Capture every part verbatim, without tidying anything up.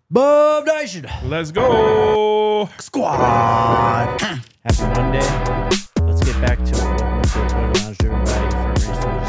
Bob Nation. Let's go. Squad. Happy Monday. Let's get back to it. Welcome to the Toyota Lounge, driven by Farmers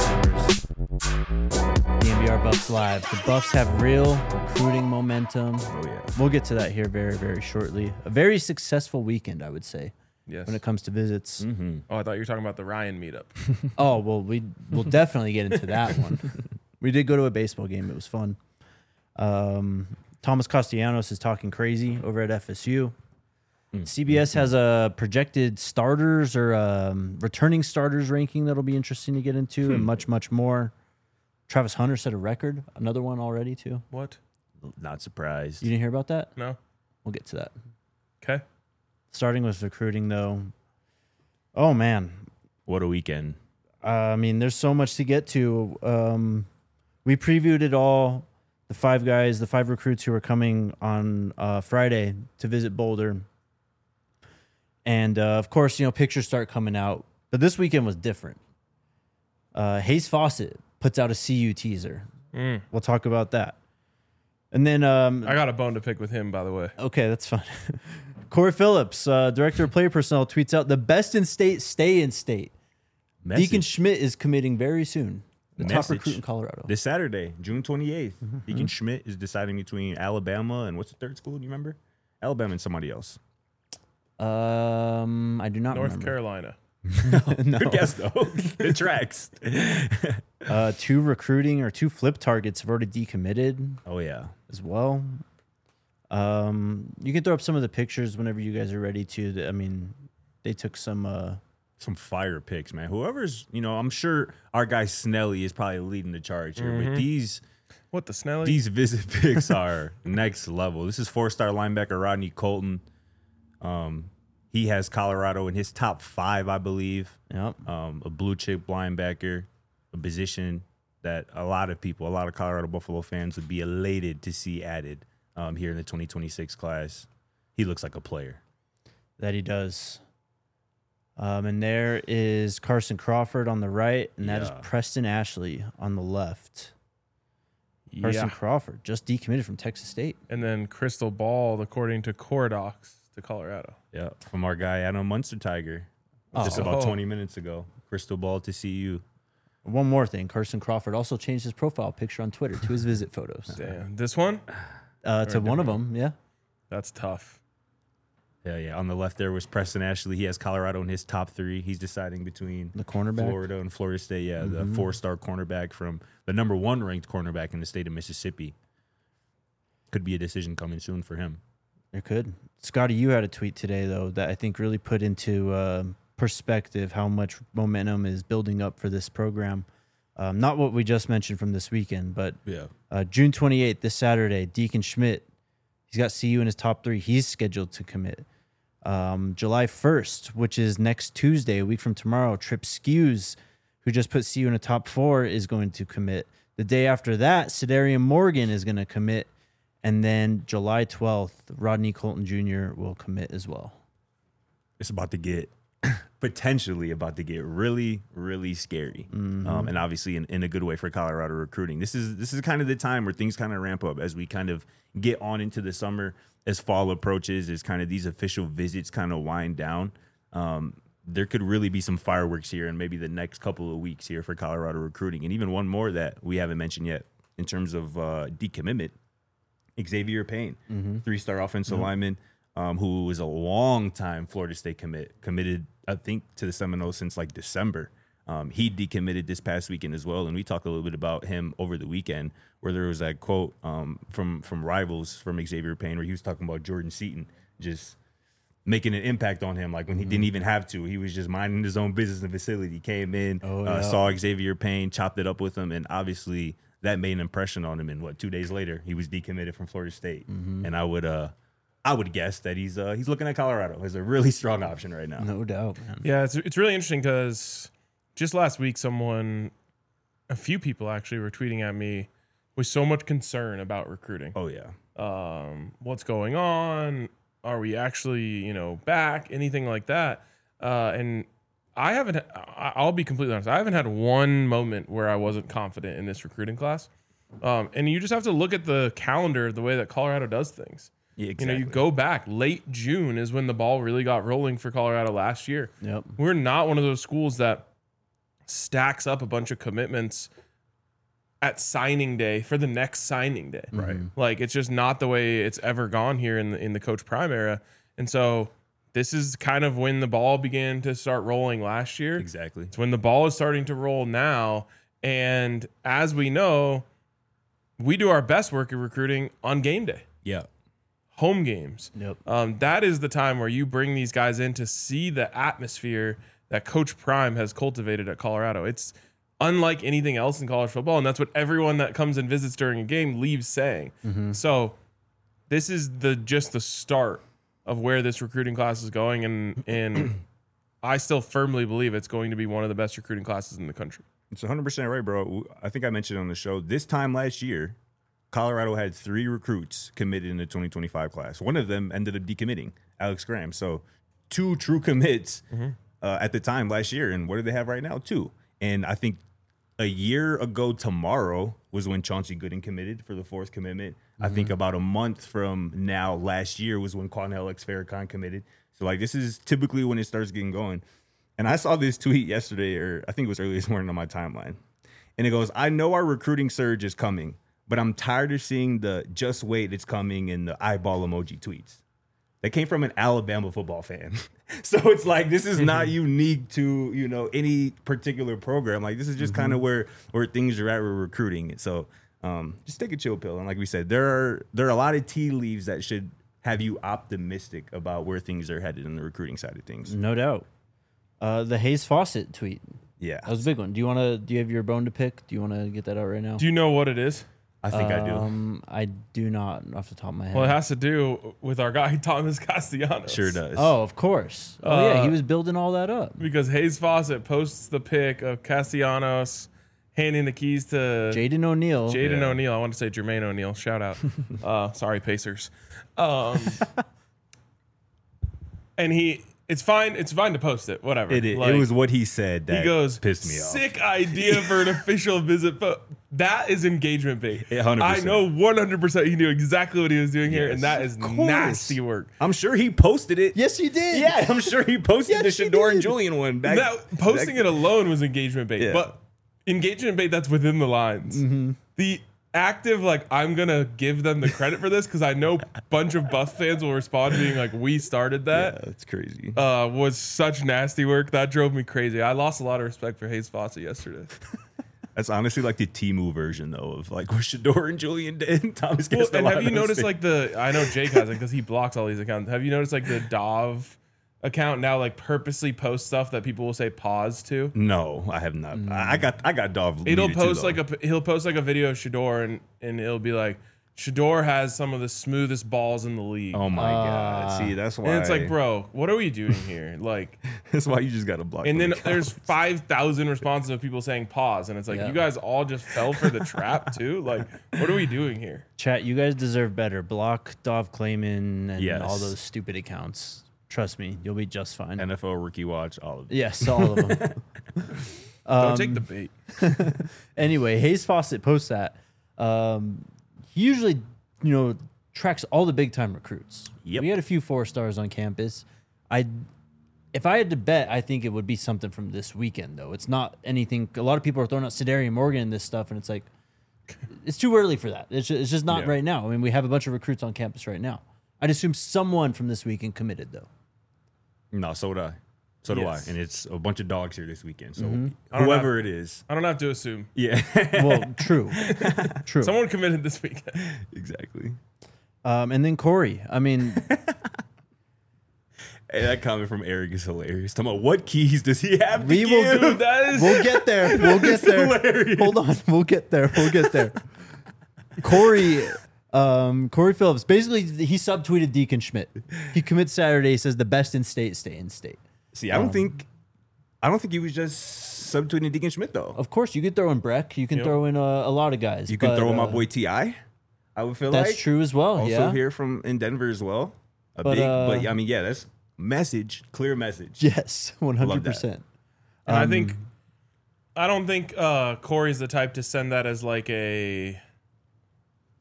Toyota. The N B R Buffs Live. The Buffs have real recruiting momentum. Oh, yeah. We'll get to that here very, very shortly. A very successful weekend, I would say, Yes. when it comes to visits. Mm-hmm. Oh, I thought you were talking about the Ryan meetup. Oh, well, we, we'll definitely get into that one. We did go to a baseball game. It was fun. Um, Thomas Castellanos is talking crazy over at F S U. Mm. C B S has a projected starters or um, returning starters ranking that'll be interesting to get into, Hmm. and much, much more. Travis Hunter set a record, another one already, too. What? Not surprised. You didn't hear about that? No. We'll get to that. Okay. Starting with recruiting, though. Oh, man. What a weekend. Uh, I mean, there's so much to get to. Um, we previewed it all. The five guys, the five recruits who are coming on uh, Friday to visit Boulder. And, uh, of course, you know, pictures start coming out. But this weekend was different. Uh, Hayes Fawcett puts out a C U teaser. Mm. We'll talk about that. And then... Um, I got a bone to pick with him, by the way. okay, that's fine. Corey Phillips, uh, Director of Player Personnel, tweets out, the best in state, stay in state. Message. Deacon Schmidt is committing very soon. The top Message. recruit in Colorado. This Saturday, June twenty-eighth, Deacon Schmidt is deciding between Alabama and what's the third school? Do you remember? Alabama and somebody else. Um, I do not North remember. Carolina. no. Good guess, though. It tracks. Uh, two recruiting or two flip targets have already decommitted Oh, yeah. as well. Um, you can throw up some of the pictures whenever you guys are ready to. I mean, they took some. Uh, Some fire picks, man. Whoever's, you know, I'm sure our guy Snelly is probably leading the charge here. But these What the Snelly? these visit picks are next level. This is four-star linebacker Rodney Colton. Um, he has Colorado in his top five, I believe. yep. Um, a blue chip linebacker, a position that a lot of people, a lot of Colorado Buffalo fans would be elated to see added um, here in the twenty twenty-six class. He looks like a player. That he does. Um, and there is Carson Crawford on the right, and that is Yeah. Preston Ashley on the left. Carson yeah. Crawford just decommitted from Texas State. And then Crystal Ball, according to Corodox, to Colorado. Yeah, from our guy Adam Munster Tiger, just Oh. about Oh. twenty minutes ago. Crystal ball to see you. One more thing, Carson Crawford also changed his profile picture on Twitter to his visit photos. Damn. This one? Uh, to Or a one of different them, yeah. That's tough. Yeah, yeah. On the left there was Preston Ashley. He has Colorado in his top three. He's deciding between The cornerback. Florida and Florida State. Yeah, the Mhm. four-star cornerback from the number one ranked cornerback in the state of Mississippi. Could be a decision coming soon for him. There could. Scotty, you had a tweet today, though, that I think really put into uh, perspective how much momentum is building up for this program. Um, not what we just mentioned from this weekend, but Yeah. uh, June twenty-eighth, this Saturday, Deacon Schmidt, he's got C U in his top three. He's scheduled to commit. Um, July first, which is next Tuesday, a week from tomorrow, Trip Skews, who just put C U in a top four, is going to commit. The day after that, Sedarian Morgan is going to commit. And then July twelfth, Rodney Colton Junior will commit as well. It's about to get potentially about to get really, really scary, um, and obviously in, in a good way for Colorado recruiting. This is this is kind of the time where things kind of ramp up as we kind of get on into the summer, as fall approaches, as kind of these official visits kind of wind down. Um, there could really be some fireworks here in maybe the next couple of weeks here for Colorado recruiting, and even one more that we haven't mentioned yet in terms of uh, decommitment. Xavier Payne, Mm-hmm. three-star offensive lineman, um, who was a long-time Florida State commit, committed, I think, to the Seminoles since like December. Um, he decommitted this past weekend as well, and we talked a little bit about him over the weekend, where there was that quote um, from from Rivals from Xavier Payne, where he was talking about Jordan Seaton just making an impact on him, like when he didn't even have to. He was just minding his own business in the facility. Came in, Oh, uh, yeah. saw Xavier Payne, chopped it up with him, and obviously that made an impression on him. And what, two days later, he was decommitted from Florida State. Mm-hmm. And I would, uh, I would guess that he's uh, he's looking at Colorado as a really strong option right now. No doubt, man. Yeah, it's it's really interesting because just last week, someone, a few people actually were tweeting at me with so much concern about recruiting. Oh yeah, Um, what's going on? Are we actually, you know, back? Anything like that? Uh, and I haven't. I- I'll be completely honest. I haven't had one moment where I wasn't confident in this recruiting class. Um, and you just have to look at the calendar, the way that Colorado does things. Yeah, You know, you go back late June is when the ball really got rolling for Colorado last year. Yep. We're not one of those schools that stacks up a bunch of commitments at signing day for the next signing day. Right. Like it's just not the way it's ever gone here in the in the Coach Prime era. And so this is kind of when the ball began to start rolling last year. Exactly. It's when the ball is starting to roll now. And as we know, we do our best work in recruiting on game day, Yeah. home games. Yep. Um, that is the time where you bring these guys in to see the atmosphere that Coach Prime has cultivated at Colorado. It's unlike anything else in college football, and that's what everyone that comes and visits during a game leaves saying. Mm-hmm. So this is the just the start of where this recruiting class is going, and and I still firmly believe it's going to be one of the best recruiting classes in the country. It's one hundred percent right, bro. I think I mentioned on the show, this time last year, Colorado had three recruits committed in the twenty twenty-five class. One of them ended up decommitting, Alex Graham. So two true commits Mm-hmm. uh, at the time last year. And what do they have right now? Two. And I think a year ago tomorrow was when Chauncey Gooden committed for the fourth commitment. Mm-hmm. I think about a month from now last year was when Cornell X Farrakhan committed. So, like, this is typically when it starts getting going. And I saw this tweet yesterday, or I think it was early this morning on my timeline. And it goes, I know our recruiting surge is coming, but I'm tired of seeing the just wait, it's coming in the eyeball emoji tweets. That came from an Alabama football fan. So it's like, this is not unique to, you know, any particular program. Like, this is just mm-hmm. kind of where, where things are at with recruiting. So um, just take a chill pill. And like we said, there are, there are a lot of tea leaves that should have you optimistic about where things are headed in the recruiting side of things. No doubt. Uh, the Hayes Fawcett tweet. Yeah. That was a big one. Do you want to, do you have your bone to pick? Do you want to get that out right now? Do you know what it is? I think I do. Um, I do not off the top of my head. Well, it has to do with our guy, Thomas Castellanos. Sure does. Oh, of course. Oh, yeah. He Uh, was building all that up. Because Hayes Fawcett posts the pic of Castellanos handing the keys to Jaden O'Neal. Jaden Yeah. O'Neal. I want to say Jermaine O'Neal. Shout out. uh, sorry, Pacers. Um, and he, it's fine. It's fine to post it. Whatever. It, it, Like, it was what he said that he goes, pissed me off. sick idea for an official visit. But that is engagement bait. Yeah, one hundred I percent. know one hundred percent he knew exactly what he was doing here. Yes. And that is Of course. nasty work. I'm sure he posted it. Yes, he did. Yeah, I'm sure he posted Yes, the he Shador and did. Julian one back. That posting back- it alone was engagement bait, Yeah. but engagement bait that's within the lines. Mm-hmm. The active, like, I'm gonna give them the credit for this because I know a bunch of Buff fans will respond being like, "We started Yeah, that." that's crazy. Uh, was such nasty work that drove me crazy. I lost a lot of respect for Hayes Fawcett yesterday. That's honestly like the Temu version though of like what Shador and Julian did. Thomas Well, and have you Castellanos noticed did. like the? I know Jake has it because he blocks all these accounts. Have you noticed like the Dov account now like purposely posts stuff that people will say pause to? No, I have not. I I got I got Dov. It'll muted too, post though. like a he'll post like a video of Shador and and it'll be like Shador has some of the smoothest balls in the league. Oh my Uh, god! See, that's why. and it's like, bro, what are we doing here? Like, that's why you just got to block. and them then there's accounts. five thousand responses of people saying pause, and it's like Yeah. you guys all just fell for the trap too. Like, what are we doing here? Chat, you guys deserve better. Block Dov Clayman and Yes. all those stupid accounts. Trust me, you'll be just fine. N F L Rookie Watch, all of it. Yes, all of them. Don't take the bait. Anyway, Hayes Fawcett posts that. Um, he usually, you know, tracks all the big time recruits. Yep. We had a few four stars on campus. I, if I had to bet, I think it would be something from this weekend though. It's not anything. A lot of people are throwing out Sedarian Morgan and this stuff, and it's like, it's too early for that. It's just, it's just not Yeah. right now. I mean, we have a bunch of recruits on campus right now. I'd assume someone from this weekend committed though. No, so do I. So do Yes. I. And it's a bunch of dogs here this weekend. So Mm-hmm. I don't whoever it is, I don't have to assume. yeah, Well, true, true. Someone committed this weekend. exactly. Um, and then Corey. I mean, Hey, that comment from Eric is hilarious. Talking about what keys does he have to We will give? do That is we'll get there. We'll get there. hilarious. Hold on. We'll get there. We'll get there. Corey, um, Corey Phillips. Basically, he subtweeted Deacon Schmidt. He commits Saturday. Says the best in state stay in state. See, I don't Um, think, I don't think he was just subtweeting Deacon Schmidt though. Of course, you could throw in Breck. You can Yep. throw in a, a lot of guys. You can but, throw in my uh, boy T I. I would feel That's like true as well. Also yeah. here from in Denver as well. A But, big, uh, but I mean, yeah, that's message, clear message. Yes, one hundred that. percent. And I Um, think I don't think uh, Corey's the type to send that as like a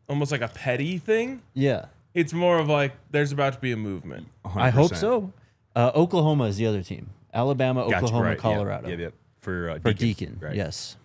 almost like a petty thing. Yeah, It's more of like there's about to be a movement. one hundred I hope percent. so. Uh, Oklahoma is the other team. Alabama, Gotcha, Oklahoma, right, yeah, Colorado. Yep, yep. For, uh, For Deacon. Deacon, right. yes.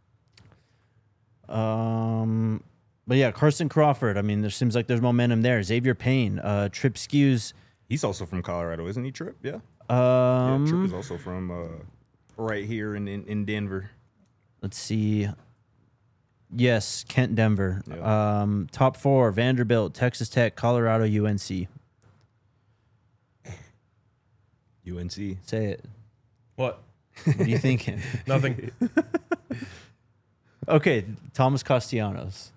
Um, but yeah, Carson Crawford. I mean, there seems like there's momentum there. Xavier Payne, uh, Trip Skews. He's also from Colorado, isn't he, Trip? Yeah. yeah Um, Trip is also from uh, right here in, in, in Denver. let's see. Yes, Kent, Denver. Yeah. Um, top four: Vanderbilt, Texas Tech, Colorado, U N C. U N C. Say it. What? What are you thinking? Nothing. Okay, Thomas Castellanos.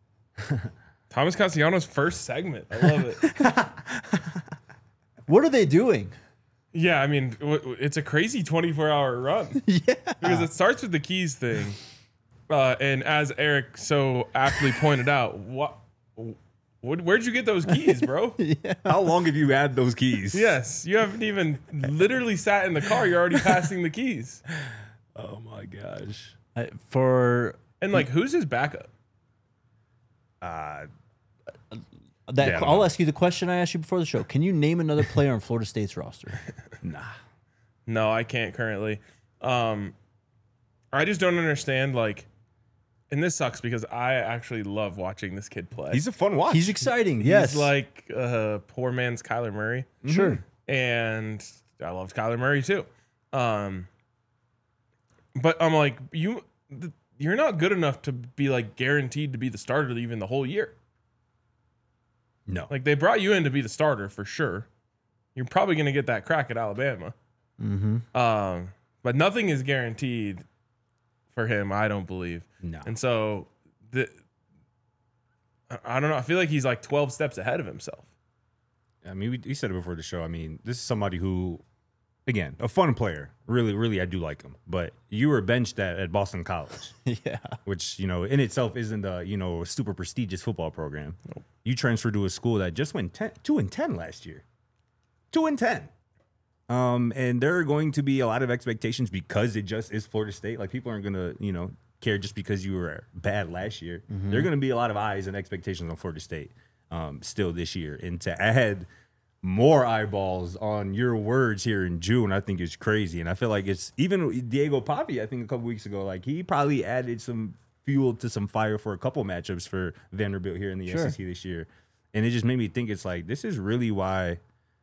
Thomas Castellanos' first segment. I love it. What are they doing? Yeah, I mean, w- w- it's a crazy twenty-four hour run. Yeah. Because it starts with the keys thing. Uh, and as Eric so aptly pointed out, what, what, where'd you get those keys, bro? How long have you had those keys? Yes, you haven't even literally sat in the car. You're already passing the keys. Oh my gosh. Uh, for And like, who's his backup? Uh, that, Yeah, I don't I'll know. ask you the question I asked you before the show. Can you name another player on Florida State's roster? nah. No, I can't currently. Um, I just don't understand. Like, and this sucks because I actually love watching this kid play. He's a fun watch. He's exciting. Yes. He's like uh, poor man's Kyler Murray. Sure. And I loved Kyler Murray too. Um, but I'm like, you, th- you're not good enough to be like guaranteed to be the starter even the whole year. no. Like they brought you in to be the starter for sure. You're probably going to get that crack at Alabama. Mm-hmm. Um, but nothing is guaranteed for him, I don't believe. no. And so the, I- I don't know. I feel like he's like twelve steps ahead of himself. I mean, we, we said it before the show. I mean, this is somebody who, again, a fun player. Really, really, I do like him. But you were benched at, at Boston College, Yeah. which, you know, in itself isn't a, you know, a super prestigious football program. You transferred to a school that just went ten, two and ten last year. Two and ten. Um, and there are going to be a lot of expectations because it just is Florida State. Like, people aren't going to, you know, care just because you were bad last year. Mm-hmm. There are going to be a lot of eyes and expectations on Florida State um, still this year. And to add more eyeballs on your words here in June, I think is crazy. And I feel like it's even Diego Papi, I think a couple weeks ago, like he probably added some fuel to some fire for a couple matchups for Vanderbilt here in the Sure. S E C this year. And it just made me think it's like, this is really why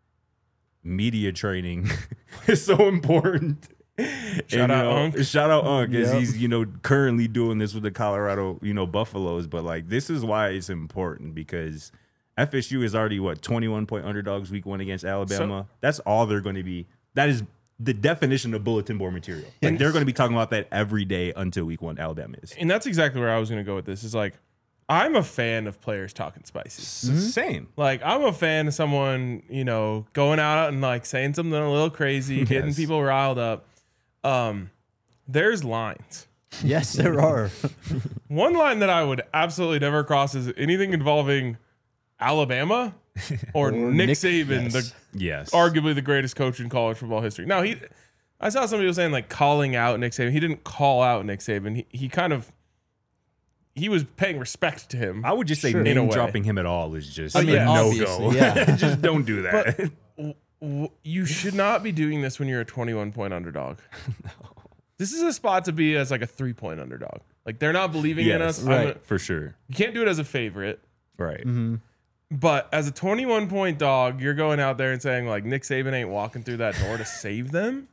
media training is so important. Shout And, out you know, Unc. Shout out Unc, as Yep. he's, you know, currently doing this with the Colorado, you know, Buffaloes. But like, this is why it's important because F S U is already what twenty-one point underdogs week one against Alabama. So- That's all they're going to be. That is the definition of bulletin board material. Like they're going to be talking about that every day until week one. Alabama is And that's exactly where I was going to go with this. Is like, I'm a fan of players talking spicy. S- same. Like, I'm a fan of someone, you know, going out and like saying something a little crazy, getting Yes. people riled up. Um, there's lines. Yes, there are. One line that I would absolutely never cross is anything involving Alabama or, Or Nick, Nick- Saban, yes. the Yes. arguably the greatest coach in college football history. Now he, I saw some people saying like calling out Nick Saban. He didn't call out Nick Saban. He he kind of he was paying respect to him. I would just say Sure. In a name way. dropping him at all is just I a mean, no go. obviously, yeah. just don't do that. W- w- you should not be doing this when you're a twenty-one point underdog. This is a spot to be as like a three point underdog. Like they're not believing in Yes, us. I'm right. a- For sure. you can't do it as a favorite. Right. But as a twenty-one point dog, you're going out there and saying like Nick Saban ain't walking through that door to save them.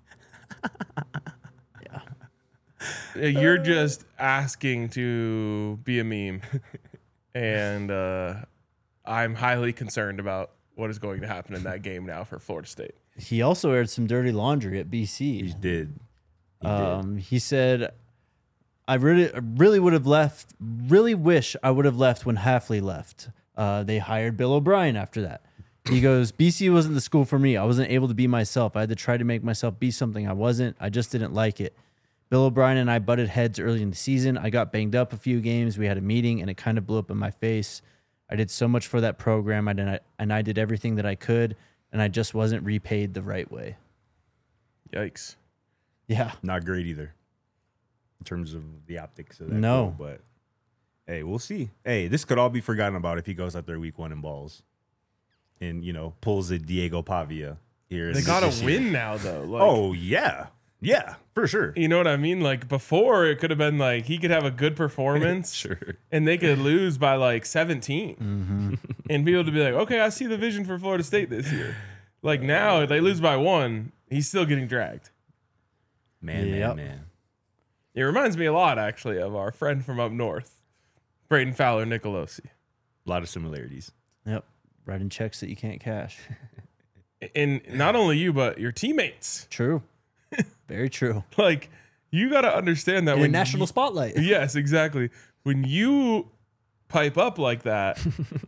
Yeah. You're just asking to be a meme. And uh, I'm highly concerned about what is going to happen in that game now for Florida State. He also aired some dirty laundry at B C. He did. He did. Um, he said, "I really, I really would have left. Really wish I would have left when Hafley left. Uh, they hired Bill O'Brien after that." He goes, "B C wasn't the school for me. I wasn't able to be myself. I had to try to make myself be something I wasn't. I just didn't like it. Bill O'Brien and I butted heads early in the season. I got banged up a few games. We had a meeting, and it kind of blew up in my face. I did so much for that program, I did, and I did everything that I could, and I just wasn't repaid the right way." Yikes. Yeah. Not great either in terms of the optics of that. No. goal, but Hey, we'll see. Hey, this could all be forgotten about if he goes out there week one and balls, and you know pulls a Diego Pavia here. They in got this to year. win now, though. Like, Oh yeah, yeah, for sure. you know what I mean? Like before, it could have been like he could have a good performance, Sure. and they could lose by like seventeen, Mm-hmm. and people to be like, okay, I see the vision for Florida State this year. Like now, if they lose by one, he's still getting dragged. Man, Yep. man, man. It reminds me a lot, actually, of our friend from up north, Braden Fowler Nicolosi. A lot of similarities. Yep. Writing checks that you can't cash. And not only you, but your teammates. True. Very true. Like, you got to understand that In a when national you- spotlight. Yes, exactly. When you pipe up like that,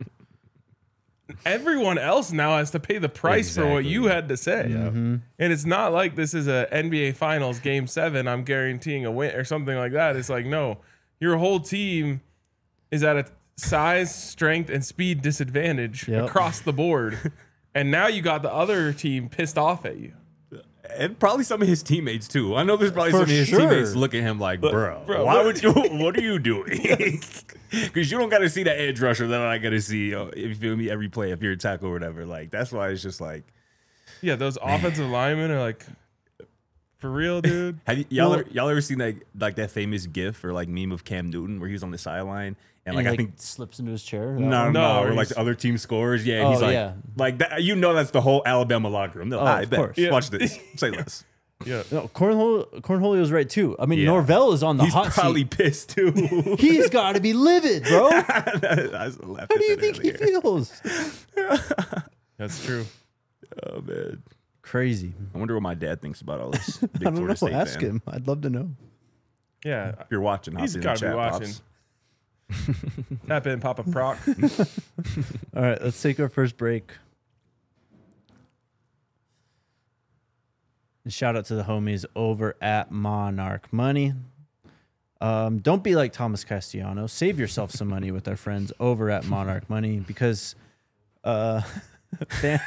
everyone else now has to pay the price for what Exactly. you had to say. Mm-hmm. And it's not like this is a N B A Finals game seven, I'm guaranteeing a win or something like that. It's like, no, your whole team is at a size, strength, and speed disadvantage Yep. across the board. And now you got the other team pissed off at you. And probably some of his teammates too. I know there's probably For some of his sure. teammates look at him like, bro, bro, why what- would you? What are you doing? Because you don't got to see that edge rusher that I got to see. uh, If you feel me, every play if you're a tackle or whatever. Like that's why it's just like, Yeah, those offensive linemen are like, for real, dude. have y- y'all Well- ever, y'all ever seen that like that famous GIF or like meme of Cam Newton where he was on the sideline and And like he, I like, think. slips into his chair. that No, one? no, No, or like he's- the other team scores. Yeah, and Oh, he's like, yeah. like that. You know, that's the whole Alabama locker room. They're like, Oh, "I of bet. course. Yeah. Watch this. Say less. Yeah. No, Cornhole, Cornholio's right too. I mean, Yeah. Norvell is on the He's hot probably seat. pissed too. He's got to be livid, bro. How I just laughed at do you that think he earlier. feels? That's true. Oh man. Crazy. I wonder what my dad thinks about all this. Big I don't Florida know. State Ask fan. him. I'd love to know. Yeah. If you're watching, hop He's in the got to be chat, watching. Pops. Tap in, Papa Proc. All right, let's take our first break. And shout out to the homies over at Monarch Money. Um, don't be like Thomas Castellano. Save yourself some money with our friends over at Monarch Money because uh, fan-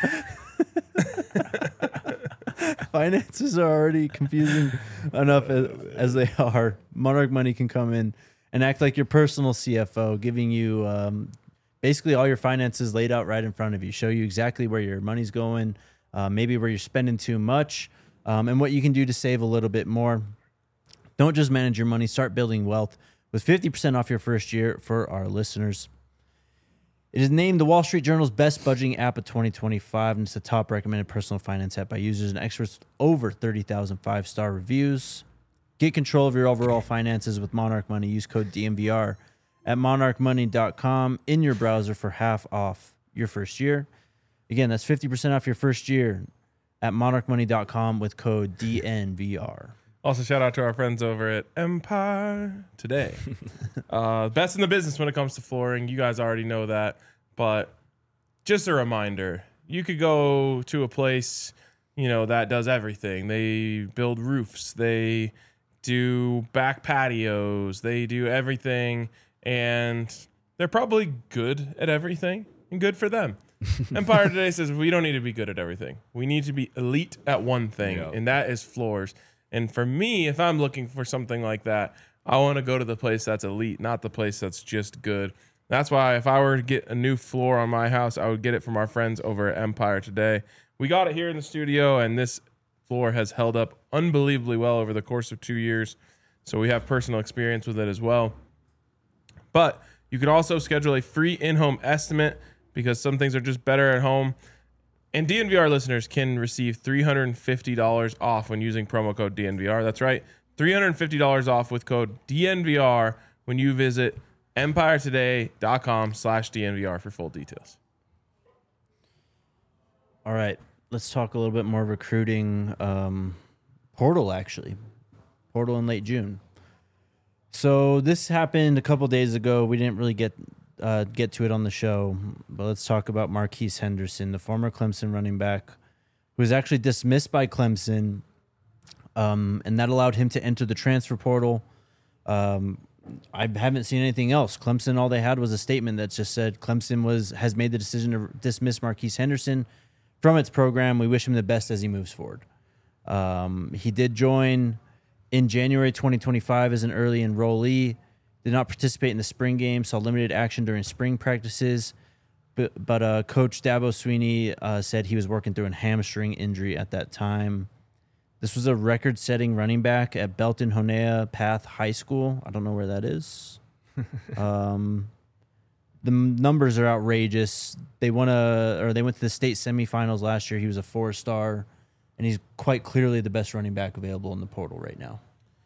finances are already confusing enough as, as they are. Monarch Money can come in and act like your personal C F O, giving you um, basically all your finances laid out right in front of you, show you exactly where your money's going, uh, maybe where you're spending too much, um, and what you can do to save a little bit more. Don't just manage your money, start building wealth with fifty percent off your first year for our listeners. It is named the Wall Street Journal's best budgeting app of twenty twenty-five, and it's the top recommended personal finance app by users and experts with over thirty thousand five-star reviews. Get control of your overall finances with Monarch Money. Use code D M V R at monarch money dot com in your browser for half off your first year. Again, that's fifty percent off your first year at monarch money dot com with code D N V R. Also, shout out to our friends over at Empire Today. uh, best in the business when it comes to flooring. You guys already know that. But just a reminder, you could go to a place, you know, that does everything. They build roofs. They do back patios. They do everything. And they're probably good at everything and good for them. Empire Today says we don't need to be good at everything. We need to be elite at one thing, Yeah. and that is floors. And for me, if I'm looking for something like that, I want to go to the place that's elite, not the place that's just good. That's why if I were to get a new floor on my house, I would get it from our friends over at Empire Today. We got it here in the studio, and this floor has held up unbelievably well over the course of two years. So we have personal experience with it as well. But you can also schedule a free in-home estimate because some things are just better at home. And D N V R listeners can receive three hundred fifty dollars off when using promo code D N V R. That's right, three hundred fifty dollars off with code D N V R when you visit empire today dot com slash D N V R for full details. All right, let's talk a little bit more recruiting. Um, portal, actually. Portal in late June. So this happened a couple days ago. We didn't really get uh, get to it on the show, but let's talk about Marquise Henderson, the former Clemson running back, who was actually dismissed by Clemson, um, and that allowed him to enter the transfer portal. Um, I haven't seen anything else. Clemson, all they had was a statement that just said Clemson was has made the decision to dismiss Marquise Henderson from its program. We wish him the best as he moves forward. Um, he did join in January twenty twenty-five as an early enrollee. Did not participate in the spring game, saw limited action during spring practices. But, but uh, Coach Dabo Sweeney uh, said he was working through a hamstring injury at that time. This was a record-setting running back at Belton Honea Path High School. I don't know where that is. um, the numbers are outrageous. They won a, or they went to the state semifinals last year. He was a four-star, and he's quite clearly the best running back available in the portal right now.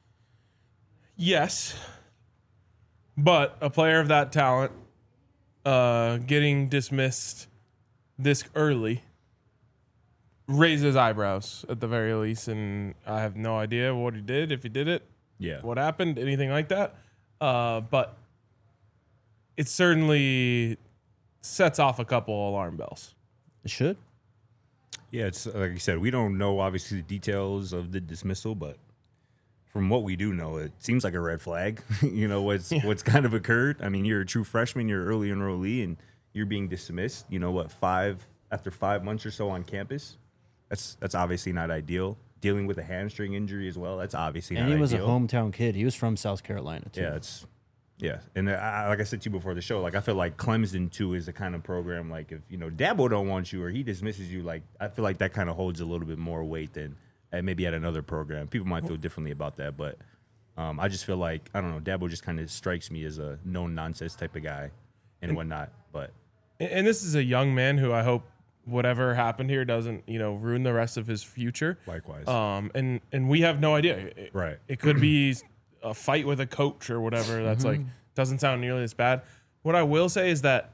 Yes, but a player of that talent uh, getting dismissed this early raises eyebrows at the very least, and I have no idea what he did, if he did it, Yeah. what happened, anything like that. Uh, but it certainly sets off a couple alarm bells. It should. Yeah, it's like you said, we don't know obviously the details of the dismissal, but from what we do know, it seems like a red flag. you know, what's Yeah. what's kind of occurred. I mean, you're a true freshman, you're an early enrollee, and you're being dismissed, you know what, five after five months or so on campus. That's that's obviously not ideal. Dealing with a hamstring injury as well, that's obviously And not he was ideal. a hometown kid. He was from South Carolina, too. Yeah, it's yeah, and I, like I said to you before the show, like I feel like Clemson too is the kind of program like if you know Dabo don't want you or he dismisses you, like I feel like that kind of holds a little bit more weight than uh, maybe at another program. People might feel differently about that, but um, I just feel like I don't know. Dabo just kind of strikes me as a no nonsense type of guy and whatnot. But And, and this is a young man who I hope whatever happened here doesn't, you know, ruin the rest of his future. likewise, Um, and and we have no idea. It, right? It could be a fight with a coach or whatever. That's like doesn't sound nearly as bad. What I will say is that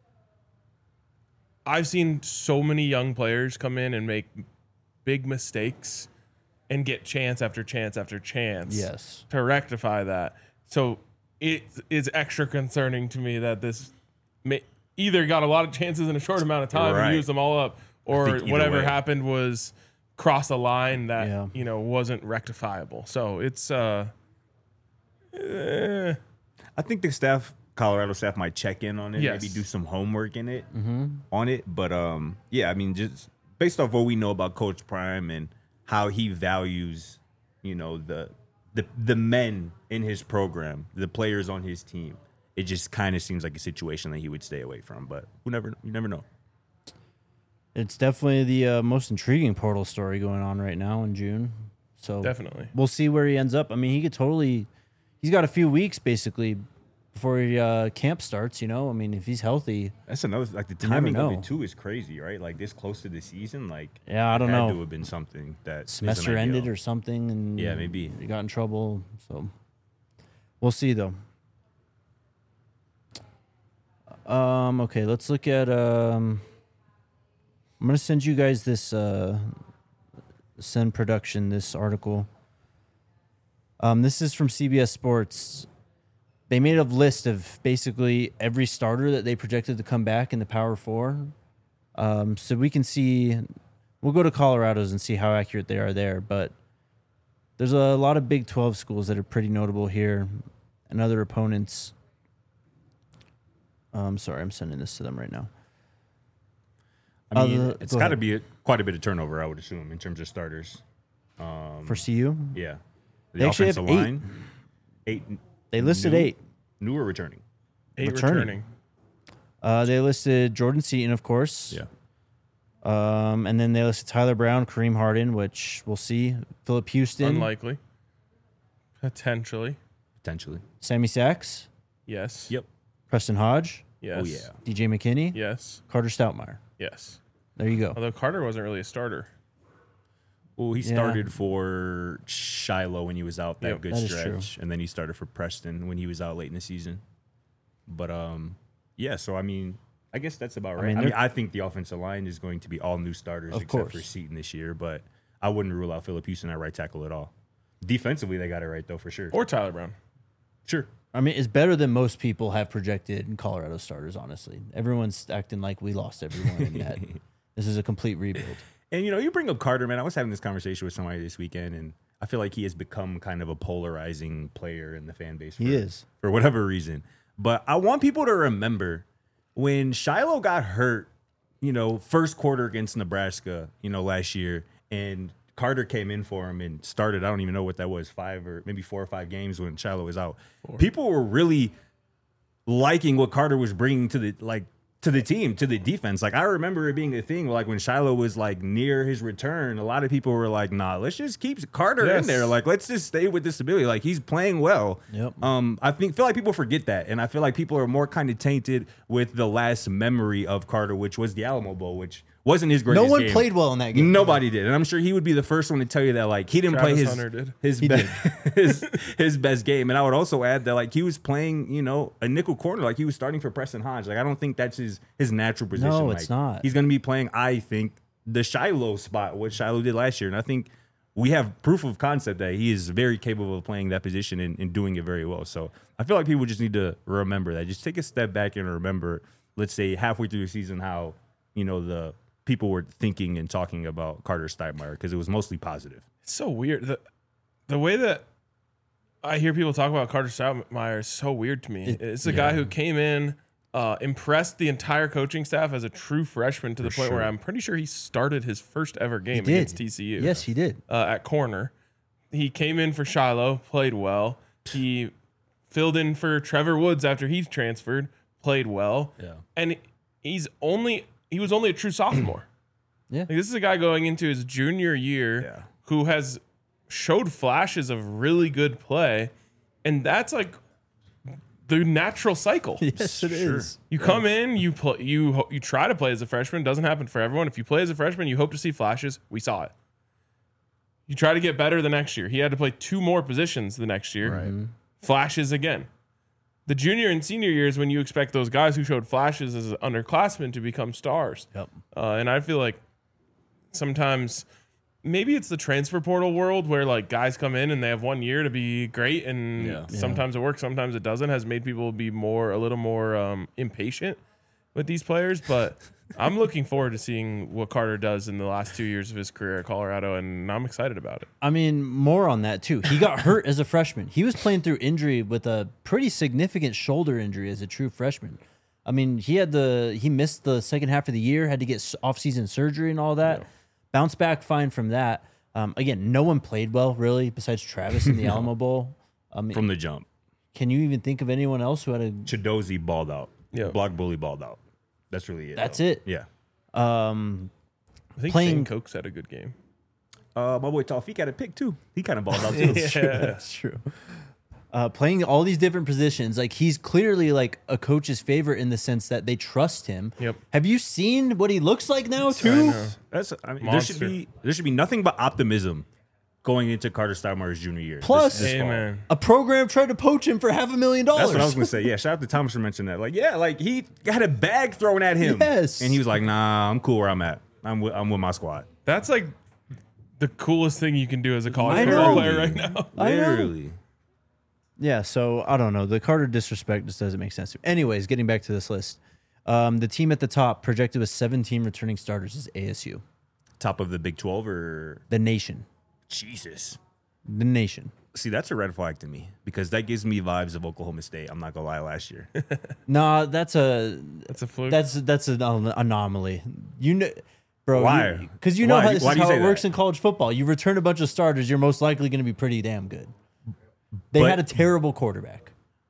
I've seen so many young players come in and make big mistakes and get chance after chance after chance Yes. to rectify that. So it is extra concerning to me that this may, either got a lot of chances in a short amount of time Right. and used them all up, or think either whatever way. happened was cross a line that Yeah. you know wasn't rectifiable. So it's uh, eh, I think the staff, Colorado staff, might check in on it, Yes. maybe do some homework in it, on it. But um, yeah, I mean, just based off what we know about Coach Prime and how he values, you know, the the the men in his program, the players on his team, it just kind of seems like a situation that he would stay away from. But who never, you never know. It's definitely the uh, most intriguing portal story going on right now in June. So definitely. we'll see where he ends up. I mean, he could totally. He's got a few weeks basically before he, uh, camp starts. You know, I mean, if he's healthy, That's another like the You never timing of know. it too is crazy, right? Like this close to the season, like yeah, I don't had know. to have been something that Semester isn't ended ideal. or something, and Yeah, maybe. he got in trouble. So we'll see though. Um. Okay, let's look at. Um. I'm gonna send you guys this. Uh, send production this article. Um. This is from C B S Sports. They made a list of basically every starter that they projected to come back in the Power Four. Um. So we can see. We'll go to Colorado's and see how accurate they are there, but there's a lot of Big twelve schools that are pretty notable here, and other opponents. Um, sorry, I'm sending this to them right now. I mean, Uh, it's go got to ahead. be a, quite a bit of turnover, I would assume, in terms of starters. For C U, Yeah, the They actually have offensive eight. line, eight. they listed new, eight. New or returning? Eight Returning. returning. Uh, they listed Jordan Seaton, of course. Yeah, Um, and then they listed Tyler Brown, Kareem Harden, which we'll see. Philip Houston, Unlikely. Potentially. potentially. Sammy Sachs, Yes. Yep. Preston Hodge, Yes. Oh yeah. D J McKinney, Yes. Carter Stoutmeyer. Yes. There you go. Although Carter wasn't really a starter. Well, he Yeah. started for Shiloh when he was out that Yep. good That is true. stretch, and then he started for Preston when he was out late in the season. But um, yeah. So I mean, I guess that's about I right. I mean, mean, they're- I, think the offensive line is going to be all new starters Of except for course. Seaton this year, but I wouldn't rule out Philip Houston at right tackle at all. Defensively, they got it right though for sure. Or Tyler Brown. Sure. I mean, it's better than most people have projected in Colorado starters, honestly. Everyone's acting like we lost everyone and that this is a complete rebuild. And you know, you bring up Carter, man. I was having this conversation with somebody this weekend, and I feel like he has become kind of a polarizing player in the fan base. For, He is. for whatever reason. But I want people to remember when Shiloh got hurt, you know, first quarter against Nebraska, you know, last year, and Carter came in for him and started, I don't even know what that was, five or maybe four or five games when Shiloh was out. Four. People were really liking what Carter was bringing to the like to the team, to the defense. Like I remember it being a thing, like when Shiloh was like near his return, a lot of people were like, nah, let's just keep Carter yes. in there. Like, let's just stay with this ability. Like he's playing well. Yep. Um, I think feel like people forget that. And I feel like people are more kind of tainted with the last memory of Carter, which was the Alamo Bowl, which wasn't his greatest No one game. played well in that game. Nobody did. And I'm sure he would be the first one to tell you that like he didn't Travis play his Hunter did. his He be- did. his his best game. And I would also add that like he was playing, you know, a nickel corner. Like he was starting for Preston Hodge. Like I don't think that's his his natural position. No, like, it's not. He's gonna be playing, I think, the Shiloh spot, what Shiloh did last year. And I think we have proof of concept that he is very capable of playing that position and, and doing it very well. So I feel like people just need to remember that. Just take a step back and remember, let's say halfway through the season, how, you know, the people were thinking and talking about Carter Steinmeier, because it was mostly positive. It's so weird. The, the way that I hear people talk about Carter Steinmeier is so weird to me. It- It's a yeah. guy who came in, uh, impressed the entire coaching staff as a true freshman to the For point where sure. I'm pretty sure he started his first ever game did. against T C U. Yes, he did. Uh, at corner. He came in for Shiloh, played well. He filled in for Trevor Woods after he transferred, played well. Yeah. And he's only he was only a true sophomore. Yeah. Like, this is a guy going into his junior year Yeah. who has showed flashes of really good play, and that's like the natural cycle. Yes, it is. Sure. You come in, you play, you ho- you try to play as a freshman. Doesn't happen for everyone. If you play as a freshman, you hope to see flashes. We saw it. You try to get better the next year. He had to play two more positions the next year. Right. Flashes again. The junior and senior years when you expect those guys who showed flashes as underclassmen to become stars. Yep. Uh, and I feel like sometimes maybe it's the transfer portal world where like guys come in and they have one year to be great, and Yeah. sometimes it works, sometimes it doesn't, has made people be more a little more um, impatient with these players. But I'm looking forward to seeing what Carter does in the last two years of his career at Colorado, and I'm excited about it. I mean, more on that too. He got hurt as a freshman. He was playing through injury with a pretty significant shoulder injury as a true freshman. I mean, he had the he missed the second half of the year, had to get off-season surgery and all that. Yeah. Bounced back fine from that. Um, again, no one played well really besides Travis in the Alamo Bowl. I mean, From the jump. can you even think of anyone else who had a? Chidozie balled out. Yeah. Block bully balled out. That's really it. That's though. it. Yeah. Um, I think Playing- Shane Cokes had a good game. Uh, my boy Tawfiq had a pick too. He kind of balled out too. Yeah. That's true. Uh, playing all these different positions, like he's clearly like a coach's favorite in the sense that they trust him. Yep. Have you seen what he looks like now I too? know. That's I mean, there should Monster. be there should be nothing but optimism going into Carter Steinmeier's junior year. Plus- this, this fall. Amen. A program tried to poach him for half a million dollars. That's what I was gonna say. Yeah, shout out to Thomas for mentioning that. Like, yeah, like he had a bag thrown at him. Yes. And he was like, nah, I'm cool where I'm at. I'm with I'm with my squad. That's like the coolest thing you can do as a college I football know. player right now. I know. Literally. Yeah, so I don't know. The Carter disrespect just doesn't make sense. Anyways, getting back to this list. Um, the team at the top projected with seventeen returning starters is A S U. Top of the Big twelve or The nation. Jesus. The nation. See, that's a red flag to me because that gives me vibes of Oklahoma State. I'm not gonna lie, last year. Nah, that's a That's a fluke. that's that's an an- anomaly. You know, bro. Why? Because you know Why? how this Why is do you how say it works that? in college football. You return a bunch of starters, you're most likely going to be pretty damn good. They But- had a terrible quarterback.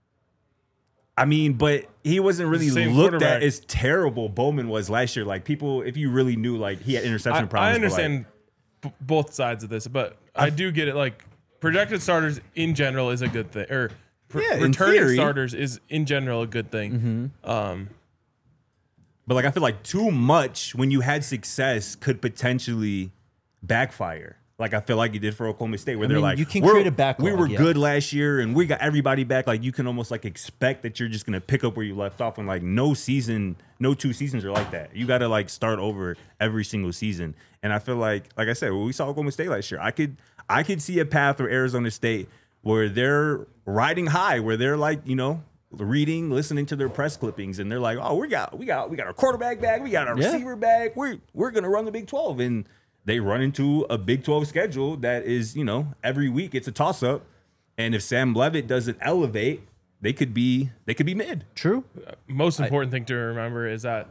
I mean, but he wasn't really Same looked quarterback. at as terrible Bowman was last year. Like people, if you really knew, like he had interception I, problems. I but, understand like, b- both sides of this, but I do get it. Like projected starters in general is a good thing, or pr- Yeah, in returning theory. starters is in general a good thing. Um, but like I feel like too much when you had success could potentially backfire. Like I feel like it did for Oklahoma State, where I they're mean, like, you can we're- create a backlog, We were yeah. good last year, and we got everybody back. Like you can almost like expect that you're just gonna pick up where you left off. And like no season, no two seasons are like that. You got to like start over every single season. And I feel like, like I said, when we saw Oklahoma State last year, I could, I could see a path for Arizona State where they're riding high, where they're like, you know, reading, listening to their press clippings, and they're like, "Oh, we got, we got, we got our quarterback back, we got our Yeah. receiver back. We're we're gonna run the Big twelve." And they run into a Big twelve schedule that is, you know, every week it's a toss up. And if Sam Levitt doesn't elevate, they could be they could be mid. True. most important thing to remember is that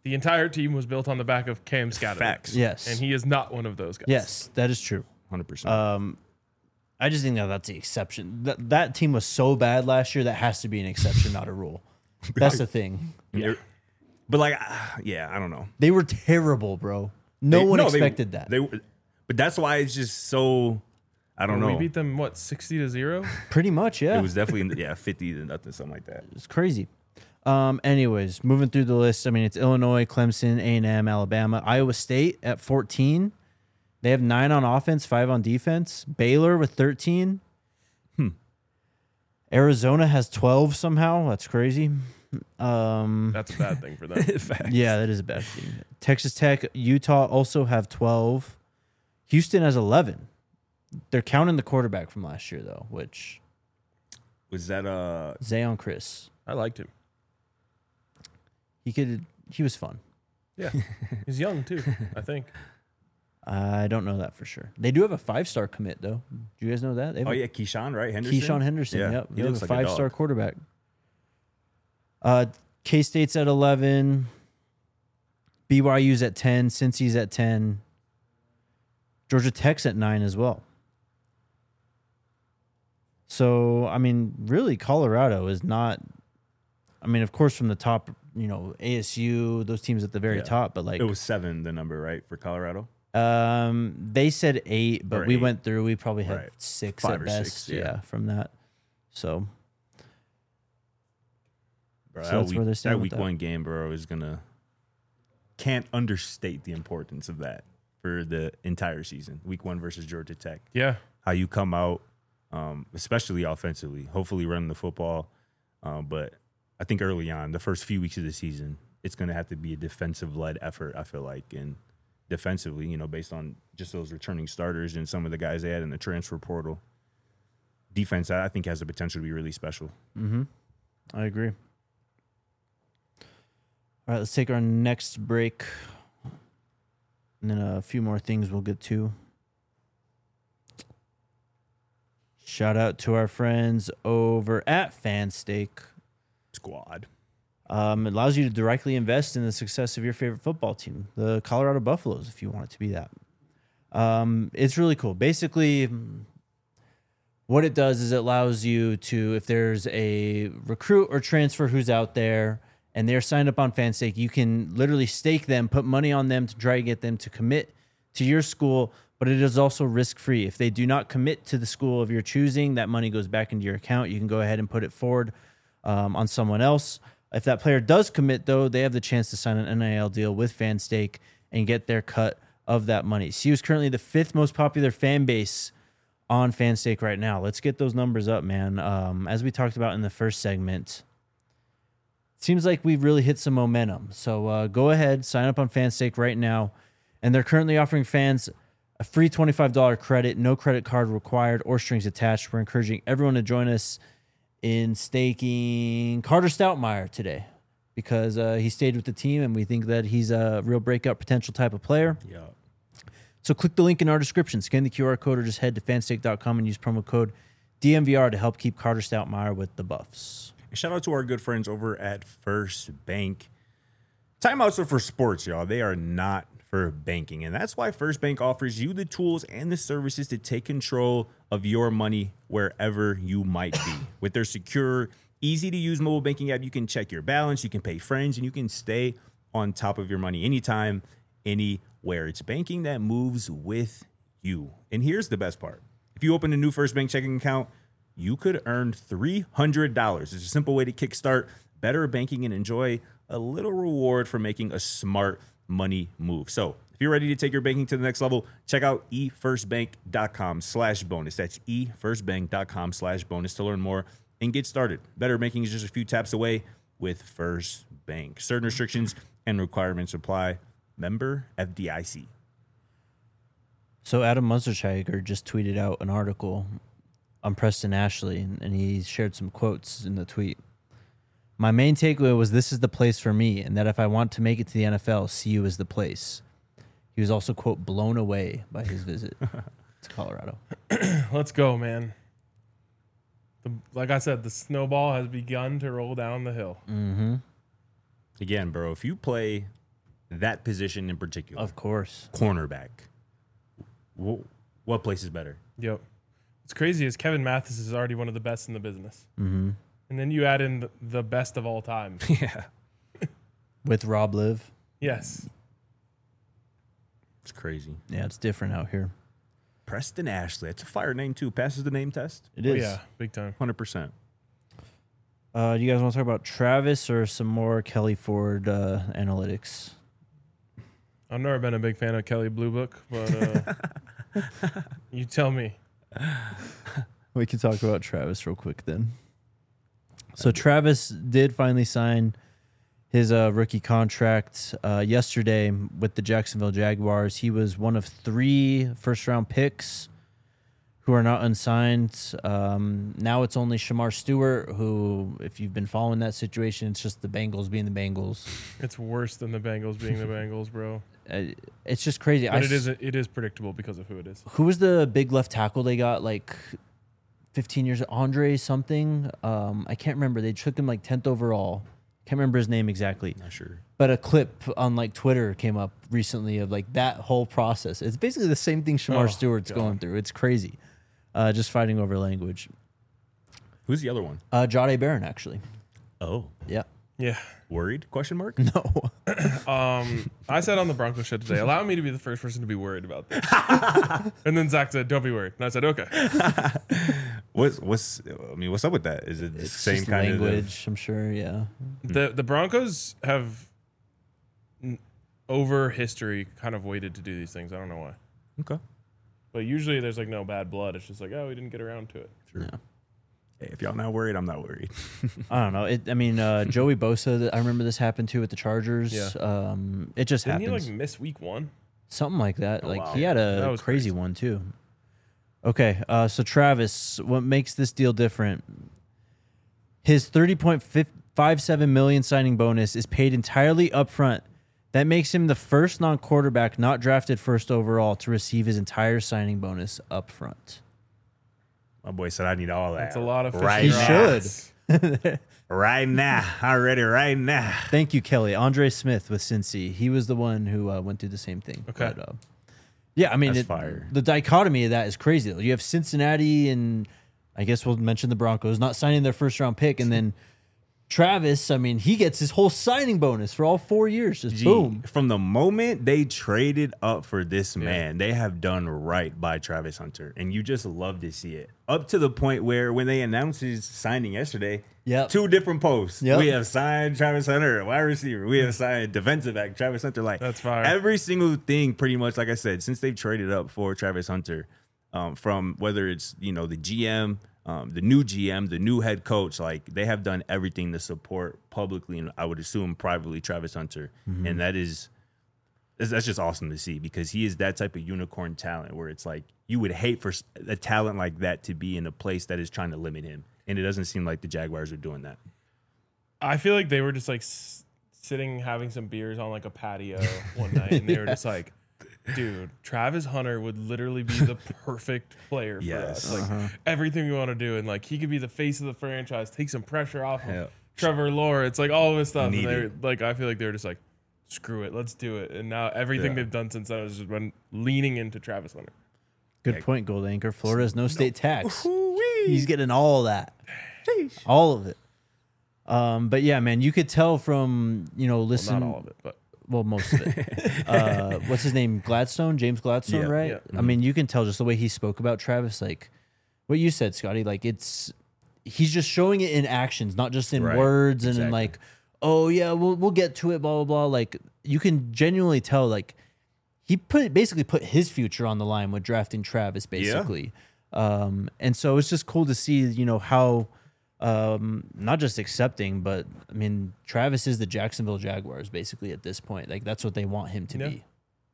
The entire team was built on the back of Cam Scatterman. Facts. Yes. And he is not one of those guys. Yes, that is true. one hundred percent. Um, I just think that that's the exception. That that team was so bad last year. That has to be an exception, not a rule. That's the thing. Yeah. But like, ah, yeah, I don't know. They were terrible, bro. No They- one no, they- expected that. They, were- but that's why it's just so. I don't We know. beat them, what, sixty to zero? Pretty much, yeah. It was definitely in the, yeah fifty to nothing, something like that. It's crazy. Um, anyways, moving through the list. I mean, it's Illinois, Clemson, A and M, Alabama, Iowa State at fourteen. They have nine on offense, five on defense. Baylor with thirteen. Hmm. Arizona has twelve somehow. That's crazy. Um, That's a bad thing for them. Facts. yeah, that is a bad thing. Texas Tech, Utah also have twelve. Houston has eleven. They're counting the quarterback from last year, though, which Was that uh? Zayon Chris. I liked him. He could. He was fun. Yeah. He's young, too, I think. I don't know that for sure. They do have a five-star commit, though. Do you guys know that? They have Oh a yeah, Keyshawn, right? Henderson. Keyshawn Henderson. Yeah, Yep. he They have looks a like a dog. five-star quarterback. Uh, K-State's at eleven. B Y U's at ten. Cincy's at ten. Georgia Tech's at nine as well. So, I mean, really, Colorado is not. I mean, of course, from the top, you know, A S U, those teams at the very Yeah. top, but like, It was seven, the number, right, for Colorado. um, they said eight, but Or we eight. went through. We probably had Right. six Five at or best. six, yeah. yeah. from that. So, Bro, So that that's week, where they're standing that with week that. one game, bro, is gonna can't understate the importance of that for the entire season. Week one versus Georgia Tech. Yeah. How you come out, um, especially offensively, hopefully running the football. Um, but I think early on, the first few weeks of the season, it's going to have to be a defensive-led effort, I feel like. And defensively, you know, based on just those returning starters and some of the guys they had in the transfer portal, defense, I think, has the potential to be really special. mm-hmm. I agree. All right, let's take our next break. And then a few more things we'll get to. Shout out to our friends over at FanStake. Squad. Um, it allows you to directly invest in the success of your favorite football team, the Colorado Buffaloes, if you want it to be that. Um, it's really cool. Basically, what it does is it allows you to, if there's a recruit or transfer who's out there and they're signed up on FanStake, you can literally stake them, put money on them to try to get them to commit to your school, but it is also risk-free. If they do not commit to the school of your choosing, that money goes back into your account. You can go ahead and put it forward um, on someone else. If that player does commit, though, they have the chance to sign an N I L deal with FanStake and get their cut of that money. C U is currently the fifth most popular fan base on FanStake right now. Let's get those numbers up, man. Um, as we talked about in the first segment, it seems like we've really hit some momentum. So uh, go ahead, sign up on FanStake right now. And they're currently offering fans a free twenty-five dollars credit, no credit card required or strings attached. We're encouraging everyone to join us in staking Carter Stoutmire today because uh, he stayed with the team and we think that he's a real breakout potential type of player. Yeah. So click the link in our description, scan the Q R code, or just head to fanstake dot com and use promo code D M V R to help keep Carter Stoutmire with the Buffs. And shout out to our good friends over at First Bank. Timeouts are for sports, y'all. They are not for banking. And that's why First Bank offers you the tools and the services to take control of your money wherever you might be. With their secure, easy-to-use mobile banking app, you can check your balance, you can pay friends, and you can stay on top of your money anytime, anywhere. It's banking that moves with you. And here's the best part. If you open a new First Bank checking account, you could earn three hundred dollars. It's a simple way to kickstart better banking and enjoy a little reward for making a smart money move. So if you're ready to take your banking to the next level, check out e first bank dot com slash bonus. That's e first bank dot com slash bonus to learn more and get started. Better banking is just a few taps away with First Bank. Certain restrictions and requirements apply. Member F D I C. So Adam Munsterscheiger just tweeted out an article on Preston Ashley, and, and he shared some quotes in the tweet. My main takeaway was this is the place for me, and that if I want to make it to the N F L, C U is the place. He was also, quote, blown away by his visit to Colorado. Let's go, man. The, like I said, the snowball has begun to roll down the hill. Mm-hmm. Again, bro, if you play that position in particular. Of course. Cornerback. Wh- What place is better? Yep. What's crazy is Kevin Mathis is already one of the best in the business. Mm-hmm. And then you add in the, the best of all time. Yeah. With Rob Liv. Yes. It's crazy. Yeah, it's different out here. Preston Ashley. It's a fire name, too. Passes the name test. It Oh, is. yeah, big time. one hundred percent. Uh, do you guys want to talk about Travis or some more Kelly Ford uh, analytics? I've never been a big fan of Kelly Blue Book, but uh, you tell me. We can talk about Travis real quick then. So Travis did finally sign his uh, rookie contract uh, yesterday with the Jacksonville Jaguars. He was one of three first-round picks who are not unsigned. Um, now it's only Shamar Stewart, who, if you've been following that situation, it's just the Bengals being the Bengals. It's worse than the Bengals being the Bengals, bro. Uh, it's just crazy. But I it s- is it is predictable because of who it is. Who was the big left tackle they got like fifteen years? Andre something. Um, I can't remember. They took him like tenth overall. Can't remember his name exactly. Not sure. But a clip on like Twitter came up recently of like that whole process. It's basically the same thing Shamar Oh, Stewart's God. going through. It's crazy. Uh, just fighting over language. Who's the other one? Uh, Jahdae Barron, actually. Oh. Yeah. Yeah. Worried? Question mark? No. Um, I said on the Broncos show today, allow me to be the first person to be worried about this. And then Zach said, don't be worried. And I said, okay. What's what's I mean, what's up with that? Is it the It's same just kind language, I'm sure. Yeah. The the Broncos have n- over history kind of waited to do these things. I don't know why. of Okay. But usually there's like no bad blood. It's just like, oh, we didn't get around to it. Sure. Yeah. Hey, if y'all not worried, I'm not worried. I don't know. It, I mean, uh, Joey Bosa, I remember this happened too with the Chargers. Yeah. Um, it just Didn't happens. he like miss week one? Something like that. Oh, like wow. he had That a was crazy crazy. one too. Okay, uh, so Travis, what makes this deal different? His thirty point five seven million signing bonus is paid entirely upfront. That makes him the first non-quarterback not drafted first overall to receive his entire signing bonus upfront. My boy said I need all that. That's a lot of fish right in He your should. eyes. Right now. I'm ready right now. Thank you, Kelly. Andre Smith with Cincy. He was the one who uh, went through the same thing. Okay. But, uh, yeah, I mean, That's it, fire. the dichotomy of that is crazy. Though. You have Cincinnati and I guess we'll mention the Broncos not signing their first round pick, and then Travis. I mean, he gets his whole signing bonus for all four years. Just Gee, boom. From the moment they traded up for this man, they have done right by Travis Hunter. And you just love to see it. Up to the point where when they announced his signing yesterday, Yep. two different posts. Yep. We have signed Travis Hunter, a wide receiver. We have signed defensive back Travis Hunter. Like That's fire. Every single thing, pretty much, like I said, since they've traded up for Travis Hunter, um, from whether it's, you know, the G M, um, the new G M, the new head coach, like they have done everything to support publicly and I would assume privately Travis Hunter. Mm-hmm. And that is that's that's just awesome to see because he is that type of unicorn talent where it's like you would hate for s- a talent like that to be in a place that is trying to limit him. And it doesn't seem like the Jaguars are doing that. I feel like they were just like s- sitting having some beers on like a patio one night, and they were just like, "Dude, Travis Hunter would literally be the perfect player for Yes. us. Like Uh-huh. everything we want to do, and like he could be the face of the franchise, take some pressure off of Yeah. Trevor Lawrence, like all of this stuff." Need and they're it. like, I feel like they were just like, "Screw it, let's do it." And now everything Yeah. they've done since then has just been leaning into Travis Hunter. Good Yeah. point, Gold Anchor. Florida has no state tax. He's getting all that, all of it. Um, but yeah, man, you could tell from you know Well, listen. not all of it, but Well, most of it. uh, what's his name? Gladstone, James Gladstone, Yeah. right? Yeah. I mean, you can tell just the way he spoke about Travis, like what you said, Scotty. Like it's he's just showing it in actions, not just in Right. words and in Exactly. like, oh yeah, we'll we'll get to it, blah blah blah. Like you can genuinely tell, like he put basically put his future on the line with drafting Travis, basically. Um, and so it's just cool to see, you know, how. Um, not just accepting, but I mean, Travis is the Jacksonville Jaguars basically at this point. Like that's what they want him to Yeah. be.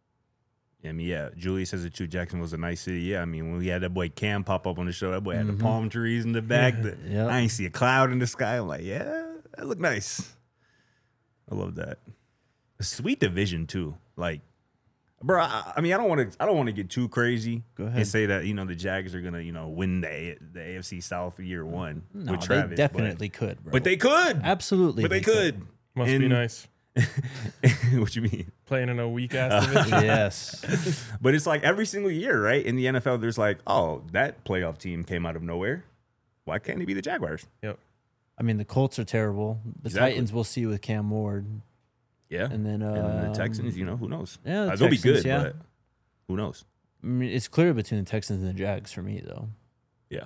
I mean, yeah, Julius says it too. Jackson was a nice city. Yeah, I mean, when we had that boy Cam pop up on the show, that boy had Mhm. the palm trees in the back. The, Yep. I ain't see a cloud in the sky. I'm like, yeah, that looked nice. I love that. A sweet division too. Like, bro, I, I mean, I don't want to. I don't want to get too crazy. Go ahead. And say that you know the Jags are gonna you know win the A- the A F C South year one No, with they Travis. definitely could, bro. but, but they could. absolutely, But they could. must be And- nice. What you mean? Playing in a weak ass division. Yes. But it's like every single year, right? In the N F L, there's like, oh, that playoff team came out of nowhere. Why can't it be the Jaguars? Yep. I mean, the Colts are terrible. The Exactly. Titans we'll see with Cam Ward. Yeah. And then, uh, And then the Texans, you know, who knows? Yeah, the Uh, they'll be Texans, good, yeah. but who knows? I mean, it's clear between the Texans and the Jags for me, though. Yeah.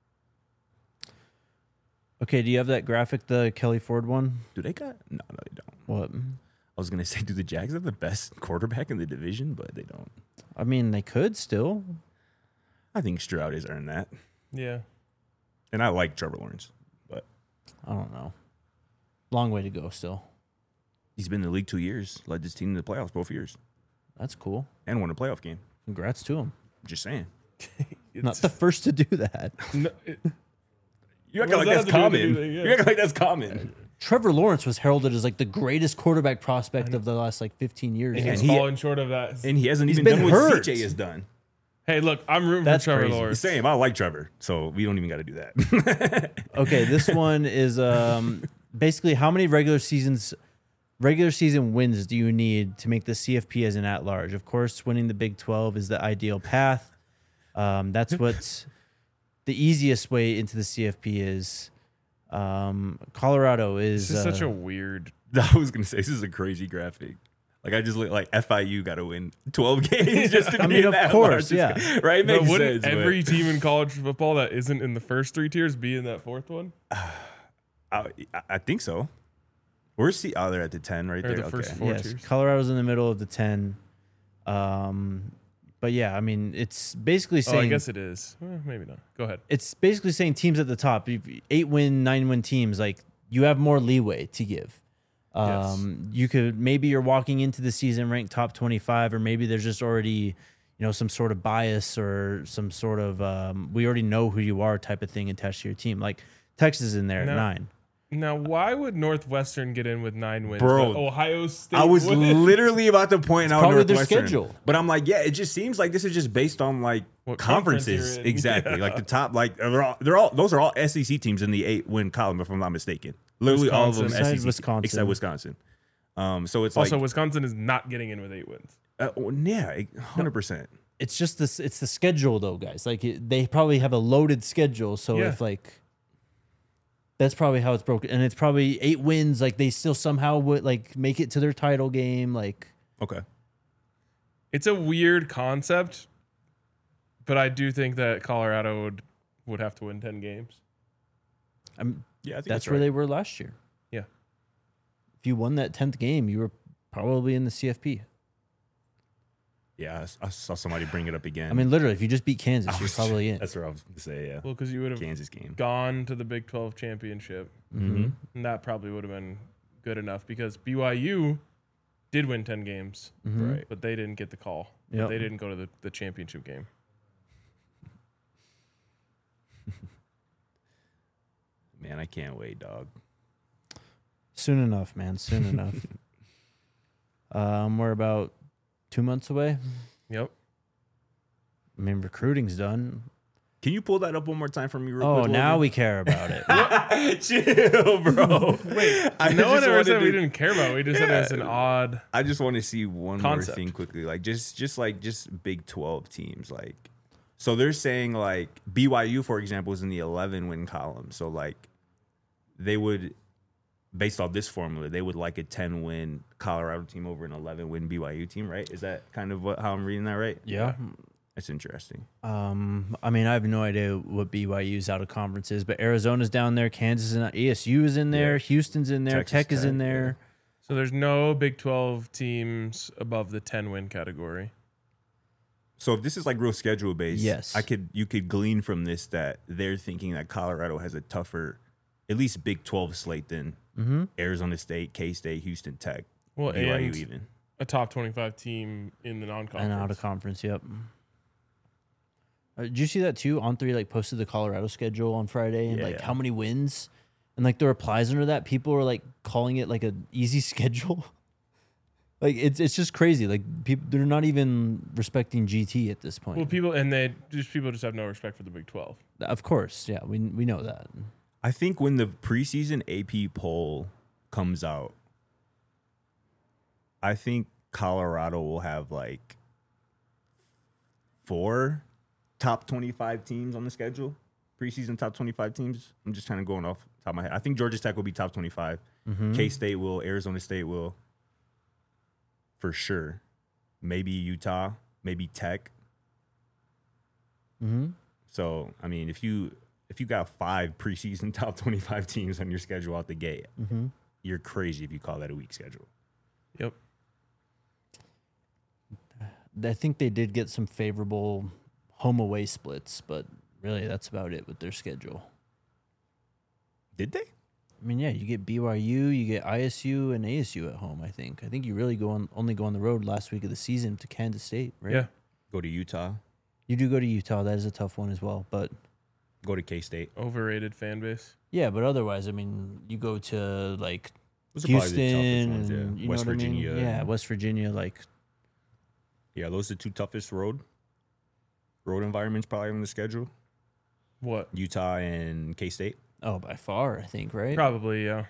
Okay, do you have that graphic, the Kelly Ford one? Do they got? No, no, they don't. What? I was gonna say, do the Jags have the best quarterback in the division? But they don't. I mean, they could still. I think Stroud has earned that, Yeah. and I like Trevor Lawrence, but I don't know. Long way to go still. he's been in the league two years, led this team to the playoffs both years, That's cool. and won a playoff game. Congrats to him. Just saying. Not the first to do that. No, it, You act What like does that's that have to do common. with anything? Yeah. You act like that's common. Trevor Lawrence was heralded as like the greatest quarterback prospect of the last like fifteen years. and And he's he- falling short of that. And he hasn't He's even been done what hurt. C J has done. Hey, look, I'm rooting That's for Trevor crazy. Lawrence. Same. I like Trevor, so we don't even got to do that. Okay, this one is um, basically how many regular seasons, regular season wins do you need to make the C F P as an at-large? Of course, winning the Big twelve is the ideal path. Um, that's what the easiest way into the C F P is. Um, Colorado is, This is uh, such a weird. I was gonna say this is a crazy graphic. Like I just look like F I U got to win twelve games just to I be mean, in of that course, large. yeah. Right? It But makes wouldn't sense. but- every team in college football that isn't in the first three tiers be in that fourth one? I, I think so. Where's the? Oh, they're at the ten right Or there. the first Okay. four yes, tiers? Colorado's in the middle of the ten. Um, but yeah, I mean, it's basically Oh, saying I guess it is. Eh, maybe not. Go ahead. it's basically saying teams at the top, if eight win, nine win teams, like you have more leeway to give. Um, You could maybe you're walking into the season ranked top twenty-five, or maybe there's just already, you know, some sort of bias or some sort of um, we already know who you are type of thing attached to your team. Like Texas is in there No. at nine. Now, why would Northwestern get in with nine wins? Bro, but Ohio State. I was wouldn't? literally about to point out probably their Northwestern, schedule. but I'm like, yeah, it just seems like this is just based on like What conference conferences, you're in. exactly. Yeah. Like the top, like they're all, they're all, those are all S E C teams in the eight win column, if I'm not mistaken. Literally all of them Wisconsin. S E C, Besides Wisconsin. except Wisconsin. Um, so it's Also, like, Wisconsin is not getting in with eight wins. uh, yeah, one hundred percent. It's just this. It's the schedule though, guys. Like it, they probably have a loaded schedule, so Yeah. if like. That's probably how it's broken, and it's probably eight wins. Like they still somehow would like make it to their title game. Like Okay. It's a weird concept, but I do think that Colorado would would have to win ten games. I'm, Yeah, I think that's that's, where right. they were last year. Yeah. If you won that tenth game, you were probably in the C F P. Yeah, I s- I, saw somebody bring it up again. I mean, literally, if you just beat I Kansas, you're was- probably in. That's what I was going to say. Yeah, Well, because you would have Kansas game. gone to the Big twelve championship, Mm-hmm. and that probably would have been good enough because B Y U did win ten games, Mhm. Right. but they didn't get the call. Yep. They didn't go to the, the championship game. Man, I can't wait, dog. Soon enough, man. Soon enough. Um, we're about two months away. Yep. I mean, recruiting's done. Can you pull that up one more time for me? Real Oh, quick, now Logan? we care about it. Chill, bro. Wait, I no one just ever wanted said we to- didn't care about it. We just said it's an Yeah. odd. I just want to see one Concept. more thing quickly, like just just like just Big twelve teams, like so they're saying like B Y U, for example, is in the eleven win column. So like they would, based off this formula, they would like a ten win Colorado team over an eleven win B Y U team, right? Is that kind of what how I'm reading that right? Yeah. That's interesting. Um, I mean, I have no idea what B Y U's out of conference is, but Arizona's down there, Kansas and E S U is in there, Yeah. Houston's in there, Texas Tech is in Tech, there. So there's no Big twelve teams above the ten win category. So if this is like real schedule based, Yes. I could you could glean from this that they're thinking that Colorado has a tougher, at least Big twelve slate than Mm-hmm. Arizona State, K State, Houston Tech, Well, B Y U and even. a top twenty-five team in the non-conference. And out of conference, yep. Uh, did you see that too? On three like posted the Colorado schedule on Friday and Yeah, like yeah. how many wins, and like the replies under that, people were like calling it like an easy schedule. Like it's it's just crazy. Like people, they're not even respecting G T at this point. Well, people and they just people just have no respect for the Big twelve. Of course, yeah, we we know that. I think when the preseason A P poll comes out, I think Colorado will have like four top twenty-five teams on the schedule. Preseason top twenty-five teams. I'm just kind of going off the top of my head. I think Georgia Tech will be top twenty-five. Mm-hmm. K-State will. Arizona State will. For sure. Maybe Utah. Maybe Tech. Mm-hmm. So, I mean, if you if you got five preseason top twenty-five teams on your schedule out the gate, Mm-hmm. you're crazy if you call that a weak schedule. Yep. I think they did get some favorable home away splits, but really that's about it with their schedule. Did they? I mean, yeah, you get B Y U, you get I S U and A S U at home. I think. I think you really go on only go on the road last week of the season to Kansas State, right? Yeah. Go to Utah. You do go to Utah. That is a tough one as well, but Go to K-State. Overrated fan base. yeah, but otherwise, I mean, you go to like Those are probably the toughest Houston, ones, yeah. and, you West know what I mean? Virginia. Yeah, West Virginia. Like, Yeah, those are the two toughest road road environments probably on the schedule. What? Utah and K-State. oh, by far, I think, right? Probably, yeah.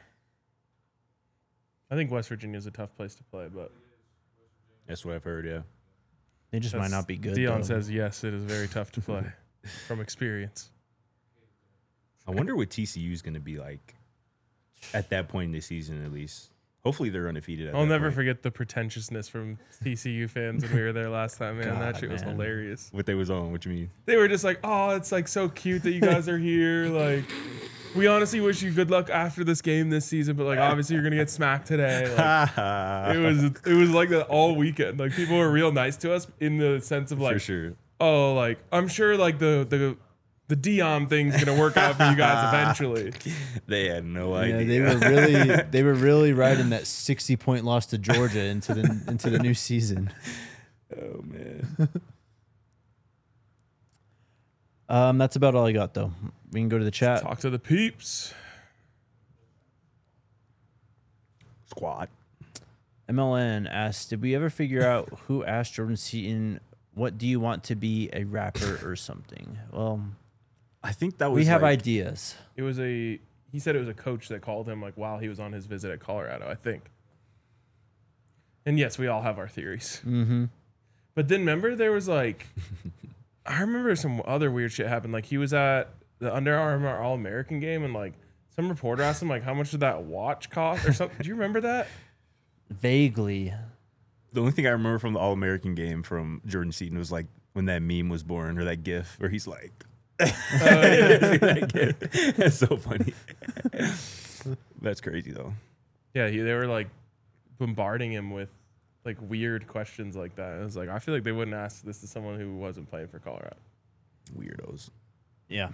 I think West Virginia is a tough place to play, but That's what I've heard, yeah. They just might that's- not be good. Dion though. says yes, it is very tough to play from experience. I wonder what T C U is going to be like at that point in the season, at least. Hopefully they're undefeated. At I'll that never point. forget the pretentiousness from T C U fans when we were there last time, man. that God, shit was man. hilarious. What they was on. What you mean? They were just like, oh, it's like so cute that you guys are here. Like, we honestly wish you good luck after this game this season, but like obviously you're gonna get smacked today. Like, it was it was like that all weekend. Like people were real nice to us in the sense of like, For sure. oh, like I'm sure like the the the Dion thing's gonna work out for you guys eventually. They had no Yeah, idea. they were really they were really riding that sixty point loss to Georgia into the into the new season. Oh, man. Um, that's about all I got though. We can go to the chat. Talk to the peeps. Squad. M L N asked, "Did we ever figure out who asked Jordan Seaton, what do you want to be, a rapper or something?" Well, I think that was we have like, ideas. It was a he said it was a coach that called him like while he was on his visit at Colorado, I think. And yes, we all have our theories. Mm-hmm. But then remember there was like I remember some other weird shit happened. Like he was at the Under Armour All American game and like some reporter asked him like how much did that watch cost or something. Do you remember that? Vaguely. The only thing I remember from the All American game from Jordan Seaton was like when that meme was born or that GIF where he's like, Uh, yeah. that GIF. That's so funny. That's crazy though. Yeah, he, they were like bombarding him with like weird questions like that. It was like I feel like they wouldn't ask this to someone who wasn't playing for Colorado. Weirdos. Yeah.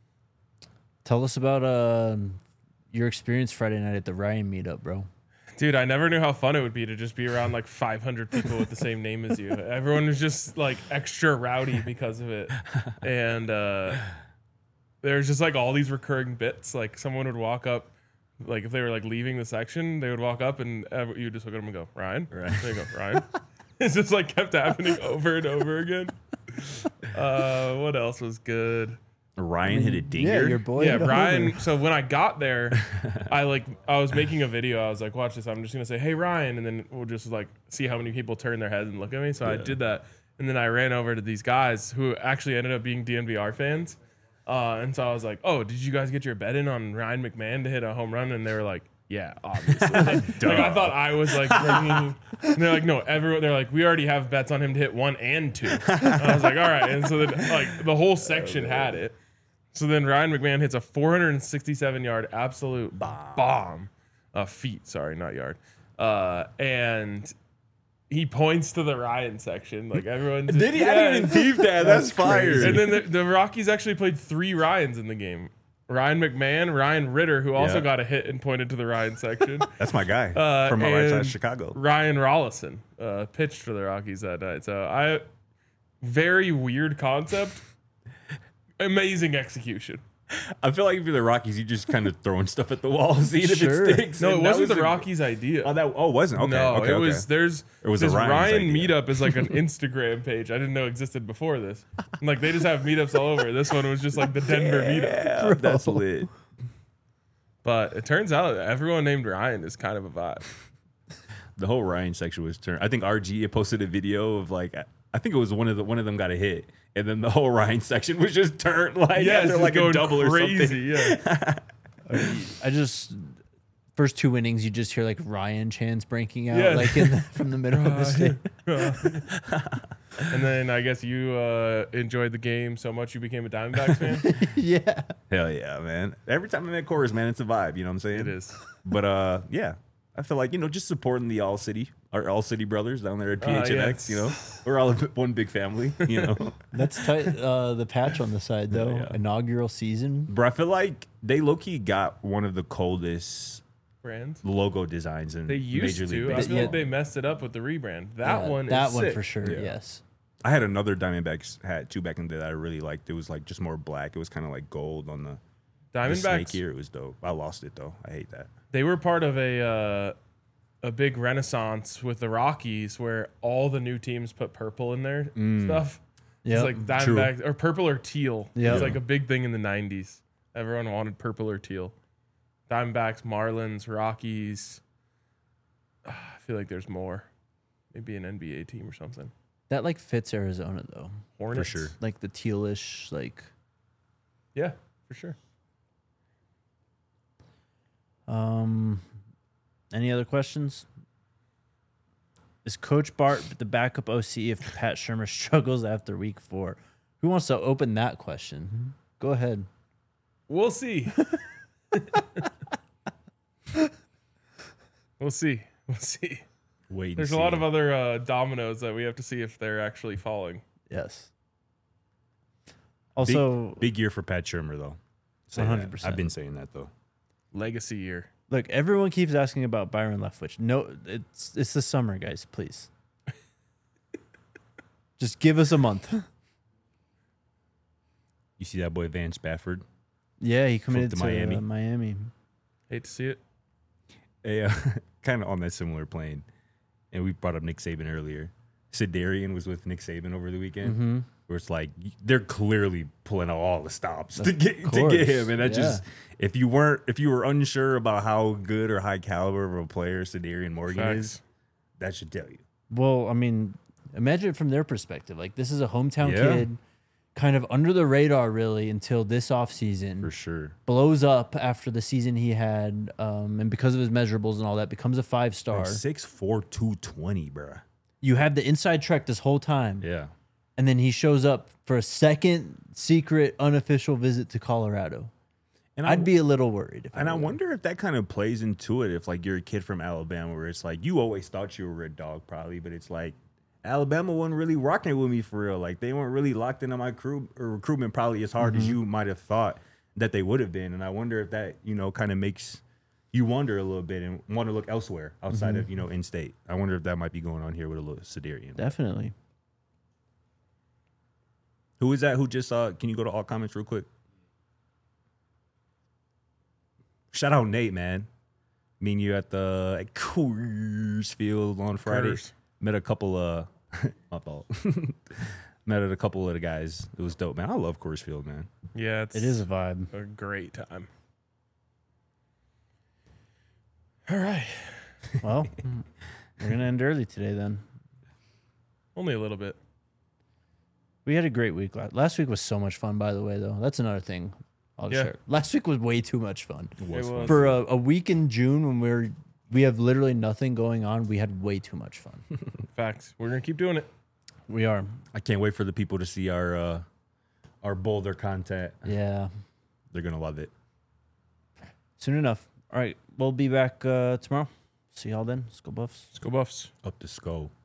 Tell us about uh, your experience Friday night at the Ryan meetup, bro. Dude, I never knew how fun it would be to just be around like five hundred people with the same name as you. Everyone was just like extra rowdy because of it. And uh, there's just like all these recurring bits. Like someone would walk up, like if they were like leaving the section, they would walk up and ev- you would just look at them and go, Ryan? Right. There you go, Ryan. It's just like kept happening over and over again. Uh, what else was good? Ryan hit a dinger. Yeah, your boy. Yeah, hit a Ryan. homer. So when I got there, I like I was making a video. I was like, "Watch this." I'm just gonna say, "Hey, Ryan," and then we'll just like see how many people turn their heads and look at me. So I Yeah. did that, and then I ran over to these guys who actually ended up being D N V R fans. Uh, and so I was like, "Oh, did you guys get your bet in on Ryan McMahon to hit a home run?" And they were like, "Yeah, obviously." like, like, I thought I was like, bringing, and they're like, "No, everyone." They're like, "We already have bets on him to hit one and two." And I was like, "All right." And so then like the whole section had it. So then Ryan McMahon hits a four hundred sixty-seven yard absolute bomb, bomb. Uh, feet, sorry, not yard. Uh, and he points to the Ryan section, like everyone. Did he? Yeah, I didn't even peep that. That's, That's fire. crazy. and then the, the Rockies actually played three Ryans in the game. Ryan McMahon, Ryan Ritter, who also Yeah. got a hit and pointed to the Ryan section. That's my guy Uh, from right side and of Chicago. Ryan Rollison uh, pitched for the Rockies that night. So I, very weird concept, amazing execution. I feel like if you're the Rockies, you just kind of throwing stuff at the wall, seeing Sure. if it sticks. No, it And that wasn't was the a- Rockies' idea. Oh, that oh, it wasn't. Okay, no, okay, it okay. was there's It was a this Ryan's Ryan idea. meetup is like an Instagram page I didn't know existed before this. And like they just have meetups all over. This one was just like the Denver meetup. Yeah, that's lit. But it turns out that everyone named Ryan is kind of a vibe. The whole Ryan section was turned. I think R G had posted a video of like I think it was one of the one of them got a hit, and then the whole Ryan section was just turned like Yeah, after it's like a going double crazy. or something. Yeah. I just first two innings, you just hear like Ryan chants breaking out Yeah. like in the, from the middle of the state. And then I guess you uh, enjoyed the game so much you became a Diamondbacks fan. Yeah, Hell yeah, man! Every time I'm at chorus, man, it's a vibe. You know what I'm saying? It is. But uh, yeah, I feel like you know just supporting the All City, our All City brothers down there at P H N X. Uh, yeah. You know, we're all a bit- one big family. You know, that's tight. Uh, the patch on the side though, Yeah. inaugural season. bro, I feel like they low key got one of the coldest Brands. logo designs in They used Major to. League I Baseball. feel like they messed it up with the rebrand. That Yeah, one that is one sick. for sure. Yeah. Yes. I had another Diamondbacks hat too back in the day that I really liked. It was like just more black. It was kind of like gold on the, the snake Diamondbacks, here. It was dope. I lost it though. I hate that. they were part of a uh, a big renaissance with the Rockies where all the new teams put purple in their stuff. Yeah. It's like Diamondbacks or purple or teal. Yep. It's like a big thing in the nineties. Everyone wanted purple or teal. Diamondbacks, Marlins, Rockies. Ah, I feel like there's more. Maybe an N B A team or something. That like fits Arizona though. Hornets. sure. Like the tealish, like Yeah, for sure. um any other questions? Is Coach Bart the backup O C if Pat Shermer struggles after week four? Who wants to open that question? Go ahead. We'll see. we'll see. We'll see. Wait. and There's a see. lot of other uh, dominoes that we have to see if they're actually falling. Yes. big, Also, big year for Pat Shermer though. Say that. one hundred percent. I've been saying that though. Legacy year. look, everyone keeps asking about Byron Leftwich. No, it's it's the summer, guys. Please, just give us a month. You see that boy Van Spafford? Yeah, he committed to to, Miami. Miami. Uh, Miami. Hate to see it. Hey, uh, kind of on that similar plane, and we brought up Nick Saban earlier. Sedarian was with Nick Saban over the weekend, Mm-hmm. where it's like they're clearly pulling out all the stops to Of get to course, get him, and that yeah. just if you weren't if you were unsure about how good or high caliber of a player Sedarian Morgan is, Facts. that should tell you. Well, I mean, imagine it from their perspective. Like, this is a hometown Yeah. kid, kind of under the radar, really, until this offseason. For sure. Blows up after the season he had, um, and because of his measurables and all that, becomes a five star. Like six four, two twenty, bruh. You have the inside track this whole time, Yeah. and then he shows up for a second secret unofficial visit to Colorado. And I'd be a little worried. If And I were. wonder if that kind of plays into it. If like you're a kid from Alabama, where it's like you always thought you were a dog, probably, but it's like Alabama wasn't really rocking it with me for real. Like they weren't really locked into my crew or recruitment probably as hard as you might have thought that they would have been. And I wonder if that you know kind of makes you wonder a little bit and want to look elsewhere outside of you know in state. I wonder if that might be going on here with a little Sedarian. Definitely. Who is that? Who just uh? Can you go to all comments real quick? Shout out Nate, man. Mean you at the at Coors Field on Friday. Coors. Met a couple of my fault. Met a couple of the guys. It was dope, man. I love Coors Field, man. Yeah, it's It is a vibe. a great time. All right. Well, we're going to end early today then. Only a little bit. We had a great week. la- Last week was so much fun, by the way, though. That's another thing I'll Yeah. share. Last week was way too much fun. It was It fun. was. For a, a week in June when we're we have literally nothing going on, we had way too much fun. Facts. We're going to keep doing it. We are. I can't wait for the people to see our uh our Boulder content. Yeah. They're gonna love it. Soon enough. All right. We'll be back uh, tomorrow. See y'all then. Let's go Buffs. Let's go Buffs. Up to skull.